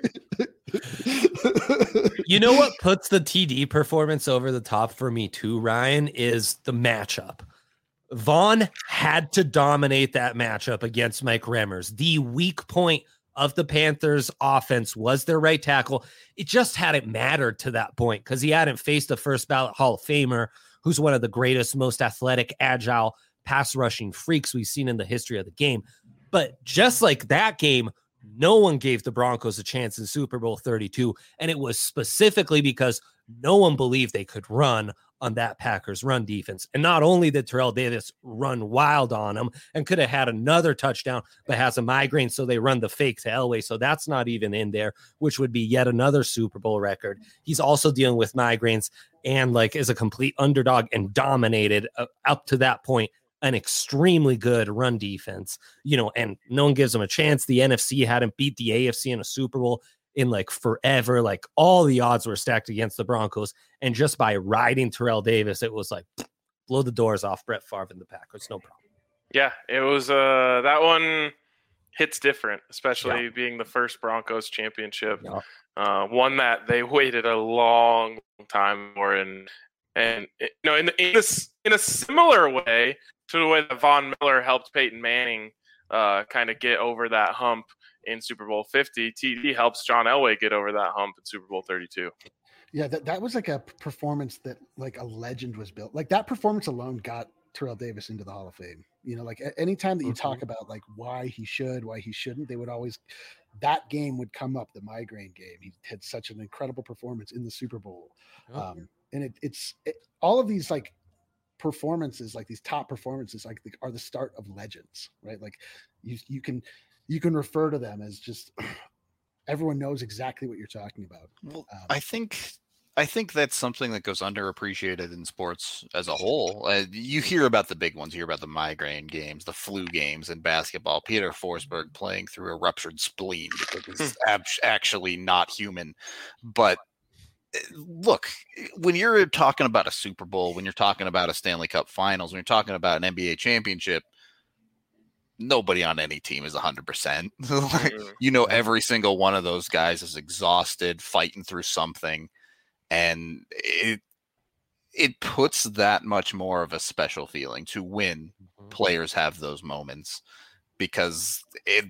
You know what puts the T D performance over the top for me too, Ryan, is the matchup. Vaughn had to dominate that matchup against Mike Remmers. The weak point of the Panthers offense was their right tackle. It just hadn't mattered to that point because he hadn't faced a first ballot Hall of Famer who's one of the greatest, most athletic, agile pass rushing freaks we've seen in the history of the game. But just like that game, no one gave the Broncos a chance in Super Bowl thirty-two, and it was specifically because no one believed they could run on that Packers run defense. And not only did Terrell Davis run wild on him and could have had another touchdown, but has a migraine, so they run the fake to Elway, so that's not even in there, which would be yet another Super Bowl record. He's also dealing with migraines and like is a complete underdog and dominated uh, up to that point an extremely good run defense, you know, and no one gives them a chance. The N F C hadn't beat the A F C in a Super Bowl in like forever. Like all the odds were stacked against the Broncos. And just by riding Terrell Davis, it was like blow the doors off Brett Favre and the Packers. No problem. Yeah, it was uh, that one hits different, especially Yeah. being the first Broncos championship. Yeah. Uh, one that they waited a long time for, and and you know, in in this in a similar way to the way that Von Miller helped Peyton Manning uh, kind of get over that hump in Super Bowl fifty, T D helps John Elway get over that hump in Super Bowl thirty-two. Yeah, that, that was like a performance that like a legend was built. Like that performance alone got Terrell Davis into the Hall of Fame. You know, like a- anytime that you Mhm. talk about like why he should, why he shouldn't, they would always, that game would come up, the migraine game. He had such an incredible performance in the Super Bowl. Yeah. Um, and it, it's it, all of these like performances, like these top performances, like the, are the start of legends, right? Like you, you can, you can refer to them as just, everyone knows exactly what you're talking about. Well, Um, I think I think that's something that goes underappreciated in sports as a whole. Uh, you hear about the big ones, you hear about the migraine games, the flu games in basketball. Peter Forsberg playing through a ruptured spleen because it's ab- actually not human. But uh, look, when you're talking about a Super Bowl, when you're talking about a Stanley Cup Finals, when you're talking about an N B A championship, nobody on any team is one hundred percent. Like, you know, every single one of those guys is exhausted, fighting through something. And it it puts that much more of a special feeling to when players have those moments, because it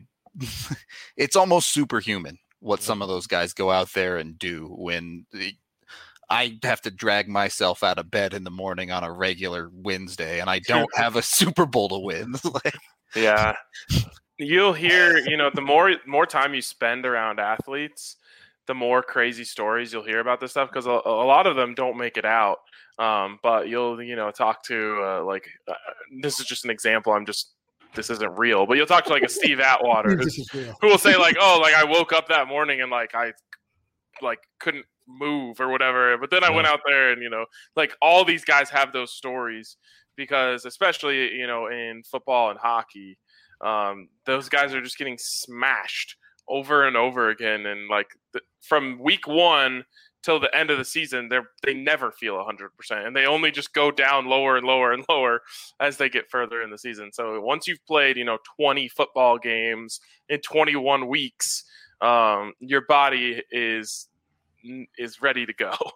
it's almost superhuman what some of those guys go out there and do when the, I have to drag myself out of bed in the morning on a regular Wednesday and I don't have a Super Bowl to win. Like, Yeah. You'll hear, you know, the more more time you spend around athletes, the more crazy stories you'll hear about this stuff, because a, a lot of them don't make it out. Um, but you'll, you know, talk to uh, like, uh, this is just an example. I'm just, this isn't real, but you'll talk to like a Steve Atwater this is real. who will say like, oh, like I woke up that morning and like I like couldn't move or whatever. But then I went out there and, you know, like all these guys have those stories, because especially, you know, in football and hockey, um, those guys are just getting smashed over and over again. And like th- from week one till the end of the season, they're, they never feel one hundred percent. And they only just go down lower and lower and lower as they get further in the season. So once you've played, you know, twenty football games in twenty-one weeks, um, your body is is ready to go. one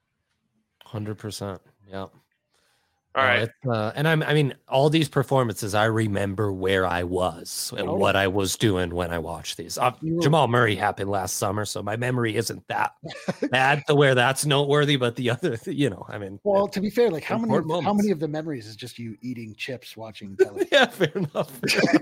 hundred percent. Yeah. All No, right. it's, uh, and I'm, I mean, all these performances, I remember where I was and Oh. what I was doing when I watched these. Uh, You were- Jamal Murray happened last summer, so my memory isn't that bad to where that's noteworthy. But the other, you know, I mean, Well, to be fair, like how many, of, Important how moments. many of the memories is just you eating chips, watching television? yeah, fair enough.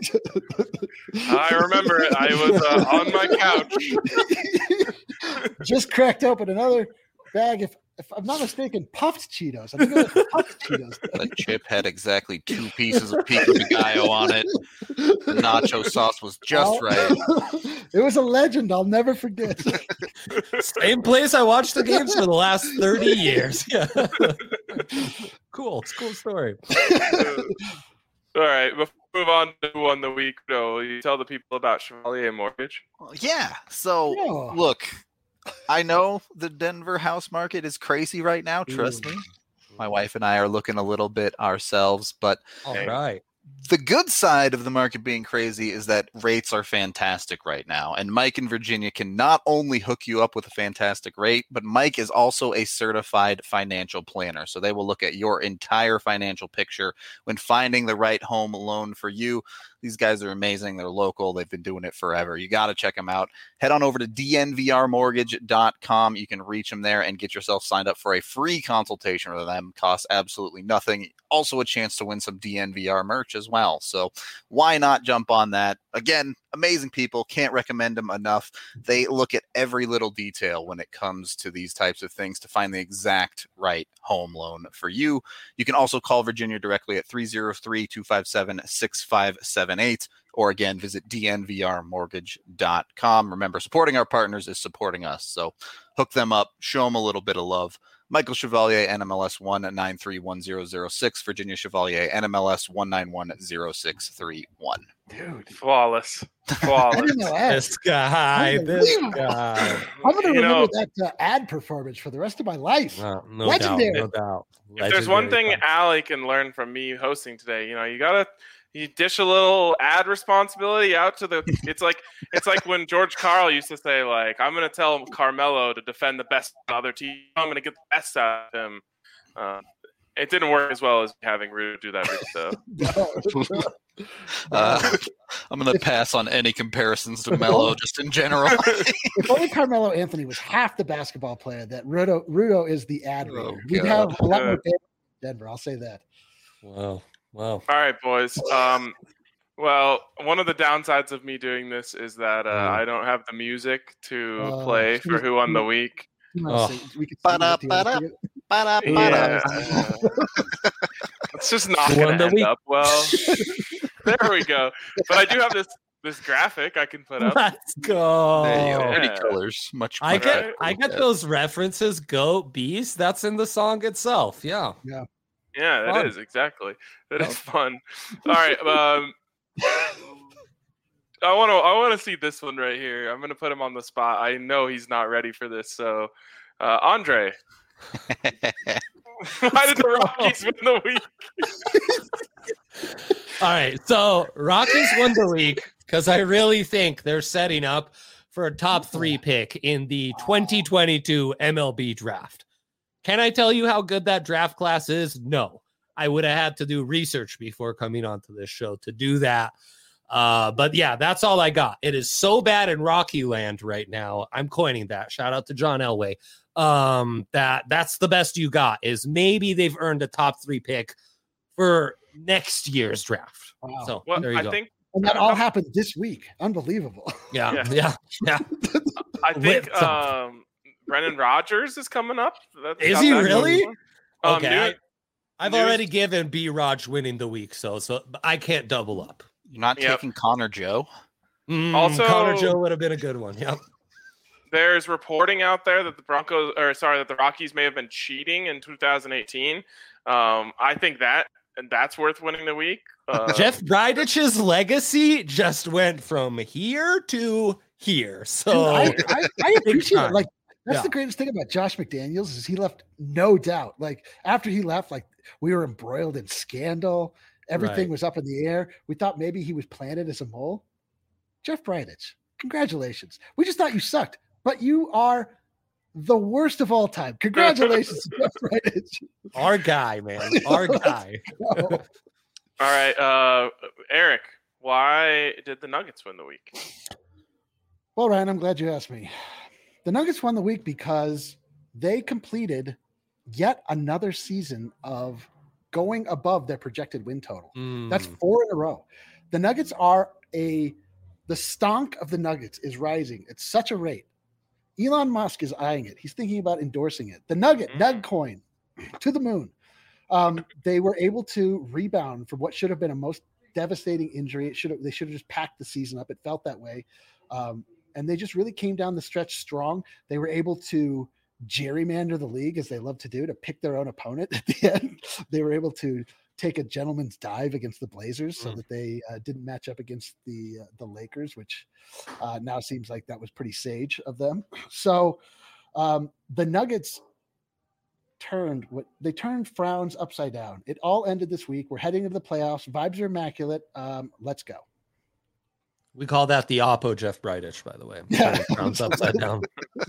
I remember it. I was uh, on my couch. Just cracked open another bag. If if I'm not mistaken, puffed Cheetos. I think it was puffed Cheetos. the chip had exactly two pieces of pico de gallo on it. The nacho sauce was just Oh, right. It was a legend. I'll never forget. Same place I watched the games for the last thirty years. Yeah. Cool. It's a cool story. All right. Before we move on to who won the week, though, you tell the people about Chevalier Mortgage. Yeah. So Yeah. look, I know the Denver house market is crazy right now. Trust me. My wife and I are looking a little bit ourselves, but All right. the good side of the market being crazy is that rates are fantastic right now. And Mike in Virginia can not only hook you up with a fantastic rate, but Mike is also a certified financial planner. So they will look at your entire financial picture when finding the right home loan for you. These guys are amazing. They're local. They've been doing it forever. You got to check them out. Head on over to D N V R mortgage dot com. You can reach them there and get yourself signed up for a free consultation with them. Costs absolutely nothing. Also a chance to win some D N V R merch as well. So why not jump on that? Again, amazing people. Can't recommend them enough. They look at every little detail when it comes to these types of things to find the exact right home loan for you. You can also call Virginia directly at three oh three, two five seven, six five seven eight, or again, visit D N V R mortgage dot com. Remember, supporting our partners is supporting us. So hook them up, show them a little bit of love. Michael Chevalier, N M L S one nine three one zero zero six, Virginia Chevalier, N M L S one nine one zero six three one. Dude, Flawless. I Flawless. didn't know that. This guy, this Unbelievable. guy. I'm gonna You remember know, that uh, ad performance for the rest of my life. Uh, no Legendary. doubt, no doubt. if there's one thing Legendary Allie can learn from me hosting today, you know, you gotta you dish a little ad responsibility out to the. It's like it's like when George Karl used to say, like, I'm gonna tell Carmelo to defend the best of the other team. I'm gonna get the best out of him. Uh, it didn't work as well as having Rude do that, though. Uh, I'm going to pass on any comparisons to Melo just in general. If only Carmelo Anthony was half the basketball player that Rudo, Rudo is the ad reader. Oh, We'd God. have a lot more fans in Denver. I'll say that. Wow. Wow. All right, boys. Um, well, one of the downsides of me doing this is that uh, Mm. I don't have the music to Oh, play she for was- Who Won the Week. You wanna Oh. sing- we could sing it. Do you wanna sing it? Ba-da-ba-da. Yeah. It's just not Who going won to the end week? up well. There we go. But I do have this this graphic I can put up. Let's go. There you go. Pretty Yeah. colors. Much. I much get better. I get those references, goat, beast. That's in the song itself. Yeah. Yeah, that Fun. is exactly. That is fun. All right. Um, I want to. I want to see this one right here. I'm going to put him on the spot. I know he's not ready for this. So, uh, Andre, why did the Rockies win the week? All right. So Rockies won the week because I really think they're setting up for a top three pick in the twenty twenty-two M L B draft. Can I tell you how good that draft class is? No. I would have had to do research before coming onto this show to do that. Uh, but yeah, that's all I got. It is so bad in Rocky Land right now. I'm coining that. Shout out to John Elway. Um, that that's the best you got is maybe they've earned a top three pick for next year's draft. Wow. So Well, there you I go. think. And that all happened this week. Unbelievable. yeah, Yeah. yeah, yeah. I think With some- um, Brendan Rodgers is coming up. That's Is got he that really? going on. Um, Okay, new- I, I've news- already given B. Raj winning the week, so so I can't double up. You're not Yep. taking Connor Joe. Mm, Also- Connor Joe would have been a good one. Yep. There's reporting out there that the Broncos, or sorry, that the Rockies may have been cheating in two thousand eighteen. Um, I think that and that's worth winning the week. Uh, Jeff Brydich's legacy just went from here to here. So I, I, I appreciate time. it. Like that's Yeah. the greatest thing about Josh McDaniels is he left no doubt. Like after he left, like we were embroiled in scandal. Everything Right. was up in the air. We thought maybe he was planted as a mole. Jeff Bridich, congratulations. We just thought you sucked, but you are the worst of all time. Congratulations, Jeff Bridich. our guy, man, our guy. all right, uh, Eric, why did the Nuggets win the week? Well, Ryan, I'm glad you asked me. The Nuggets won the week because they completed yet another season of going above their projected win total. That's Mm. four in a row. The Nuggets are a the stonk of the Nuggets is rising at such a rate. Elon Musk is eyeing it. He's thinking about endorsing it. The Nugget, Mm. Nug coin to the moon. Um, they were able to rebound from what should have been a most devastating injury. It should have they should have just packed the season up. It felt that way. Um, and they just really came down the stretch strong. They were able to gerrymander the league as they love to do to pick their own opponent at the end. They were able to take a gentleman's dive against the Blazers so Mm. that they uh, didn't match up against the uh, the Lakers, which uh, now seems like that was pretty sage of them. So um, the Nuggets turned what they turned frowns upside down. It all ended this week. We're heading into the playoffs. Vibes are immaculate. Um, let's go. We call that the Oppo Jeff Bridich, by the way. Yeah. Turning frowns upside down.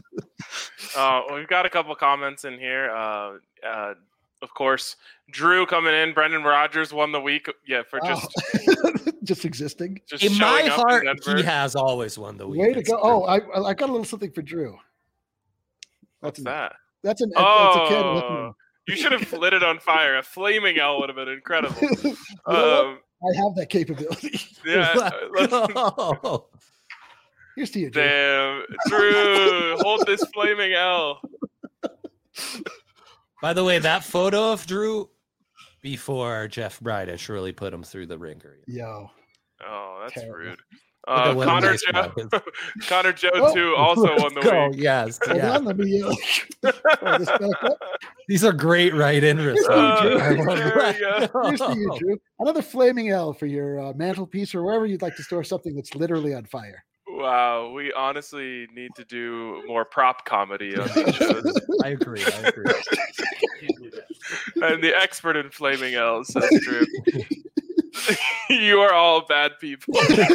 Uh, we've got a couple comments in here. Uh, uh, of course, Drew coming in. Brendan Rodgers won the week. Yeah, for just Wow. just existing. just In my showing up heart, in Denver. he has always won the week. Way to It's go. true. Oh, I I got a little something for Drew. What's an- that? That's an that's a kid. Oh, you should have lit it on fire. A flaming L would have been incredible. You know Um, what? I have that capability. yeah. Let's let's- go. Here's to you, Drew. Damn, Drew, hold this flaming L. By the way, that photo of Drew before Jeff Bridich really put him through the ringer. Yo. Oh, that's Terrible. rude. Look Uh, at what a Connor nice guy Joe, is. Connor Joe Oh, too also won the Go, week. yes. Hold Yeah. on, let me uh, throw this back up. These are great right-in results. Uh, I love there we that. go. Here's to you, Drew. Another flaming L for your uh, mantelpiece or wherever you'd like to store something that's literally on fire. Wow, we honestly need to do more prop comedy on these shows. I agree. I agree. And the expert in flaming L's says Drew. You are all bad people.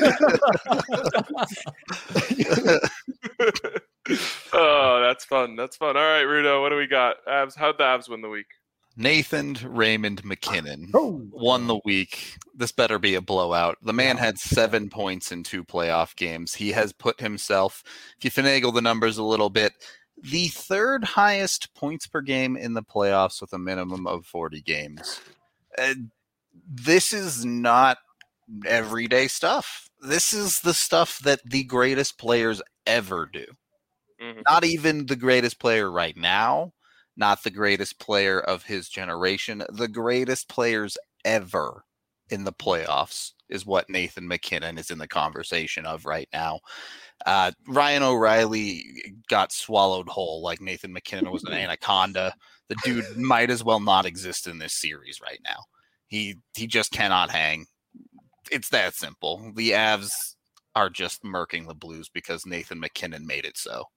Oh, that's fun. That's fun. All right, Rudo, what do we got? Abs, how'd the Abs win the week? Nathan Raymond McKinnon Oh. won the week. This better be a blowout. The man had seven points in two playoff games. He has put himself, if you finagle the numbers a little bit, the third highest points per game in the playoffs with a minimum of forty games. Uh, this is not everyday stuff. This is the stuff that the greatest players ever do. Mhm. Not even the greatest player right now, not the greatest player of his generation, the greatest players ever in the playoffs is what Nathan McKinnon is in the conversation of right now. Uh, Ryan O'Reilly got swallowed whole like Nathan McKinnon was an anaconda. The dude might as well not exist in this series right now. He he just cannot hang. It's that simple. The Avs are just murking the Blues because Nathan McKinnon made it so.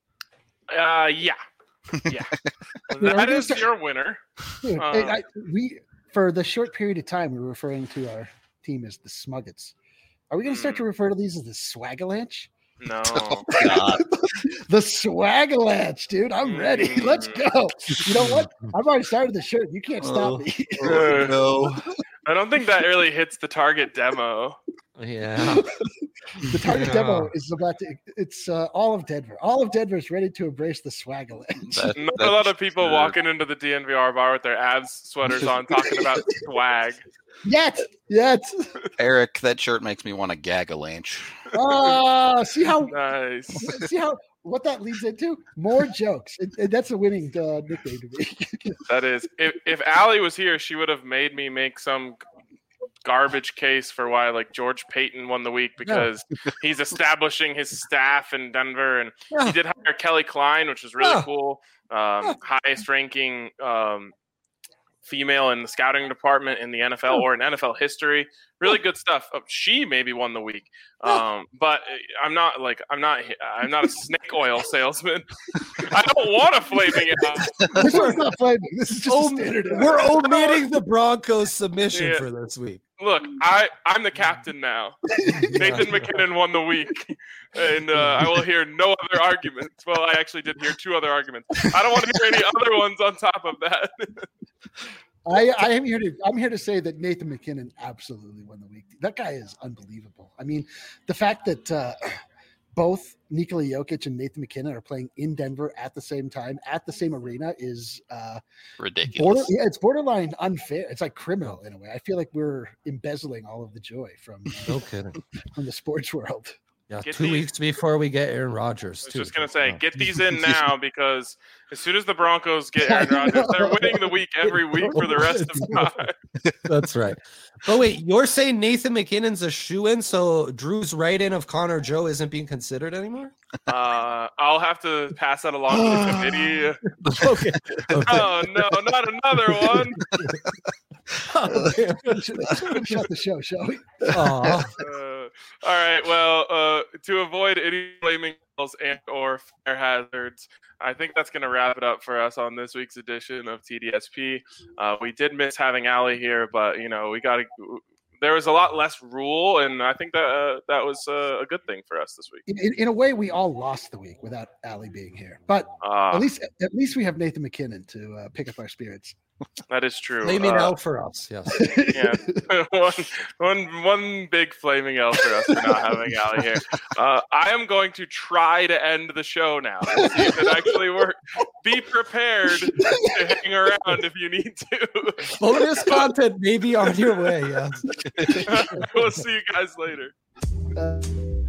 Uh, yeah. Yeah. That is your winner. Dude, Uh, hey, I, we for the short period of time we were referring to our team as the Smuggets. Are we going to start to refer to these as the Swagalanche? No. God. The Swagalanche, dude. I'm ready. Mm. Let's go. You know what? I've already started the shirt. You can't stop Oh. me. Uh, No. I don't think that really hits the target demo. Yeah. The target Yeah. demo is about to. It's uh, all of Denver. All of Denver is ready to embrace the Swagalanche. That- Not a lot of that's people true. walking into the D N V R bar with their abs sweaters on talking about swag. Yet, yet. Eric, that shirt makes me want to gag a lanch. Oh, see how Nice. see how what that leads into? More jokes. And, and that's a winning uh, nickname to me. That is. If if Allie was here, she would have made me make some garbage case for why like George Payton won the week because he's establishing his staff in Denver, and he did hire Kelly Klein, which was really Yeah. cool. Um, highest ranking um, female in the scouting department in the N F L or in N F L history. Really good stuff. Uh, She maybe won the week, um, but I'm not like I'm not I'm not a snake oil salesman. I don't want a flaming out. This one's not flaming. This is just Oh, a standard. we're omitting the Broncos submission Yeah. for this week. Look, I, I'm the captain now. Nathan McKinnon won the week, and uh, I will hear no other arguments. Well, I actually did hear two other arguments. I don't want to hear any other ones on top of that. I, I am here to I'm here to say that Nathan McKinnon absolutely won the week. That guy is unbelievable. I mean, the fact that uh, both Nikola Jokic and Nathan McKinnon are playing in Denver at the same time at the same arena is uh, Ridiculous. border, yeah, it's borderline unfair. It's like criminal in a way. I feel like we're embezzling all of the joy from No kidding. from the sports world. Yeah, Get two these- weeks before we get Aaron Rodgers. I was too. just gonna say, Yeah. get these in now because as soon as the Broncos get Aaron Rodgers, they're winning the week every week for the rest of time. That's right. But wait, you're saying Nathan McKinnon's a shoe-in, so Drew's write-in of Connor Joe isn't being considered anymore? Uh, I'll have to pass that along to the committee. Okay. okay. Oh no, not another one. Shut the show, shall we? Aw. Uh, all right. Well, uh, to avoid any flaming balls and or fire hazards, I think that's going to wrap it up for us on this week's edition of T D S P. Uh, we did miss having Allie here, but you know we got to. There was a lot less rule, and I think that uh, that was uh, a good thing for us this week. In, in, in a way, we all lost the week without Allie being here, but Uh, at least at least we have Nathan McKinnon to uh, pick up our spirits. that is true. Flaming Uh, out for us, yes. yeah, one, one, one big flaming L for us for not having Allie here. Uh, I am going to try to end the show now. We'll see if it actually works. Be prepared to hang around if you need to. Bonus content may be on your way, yes. We'll see you guys later. Uh,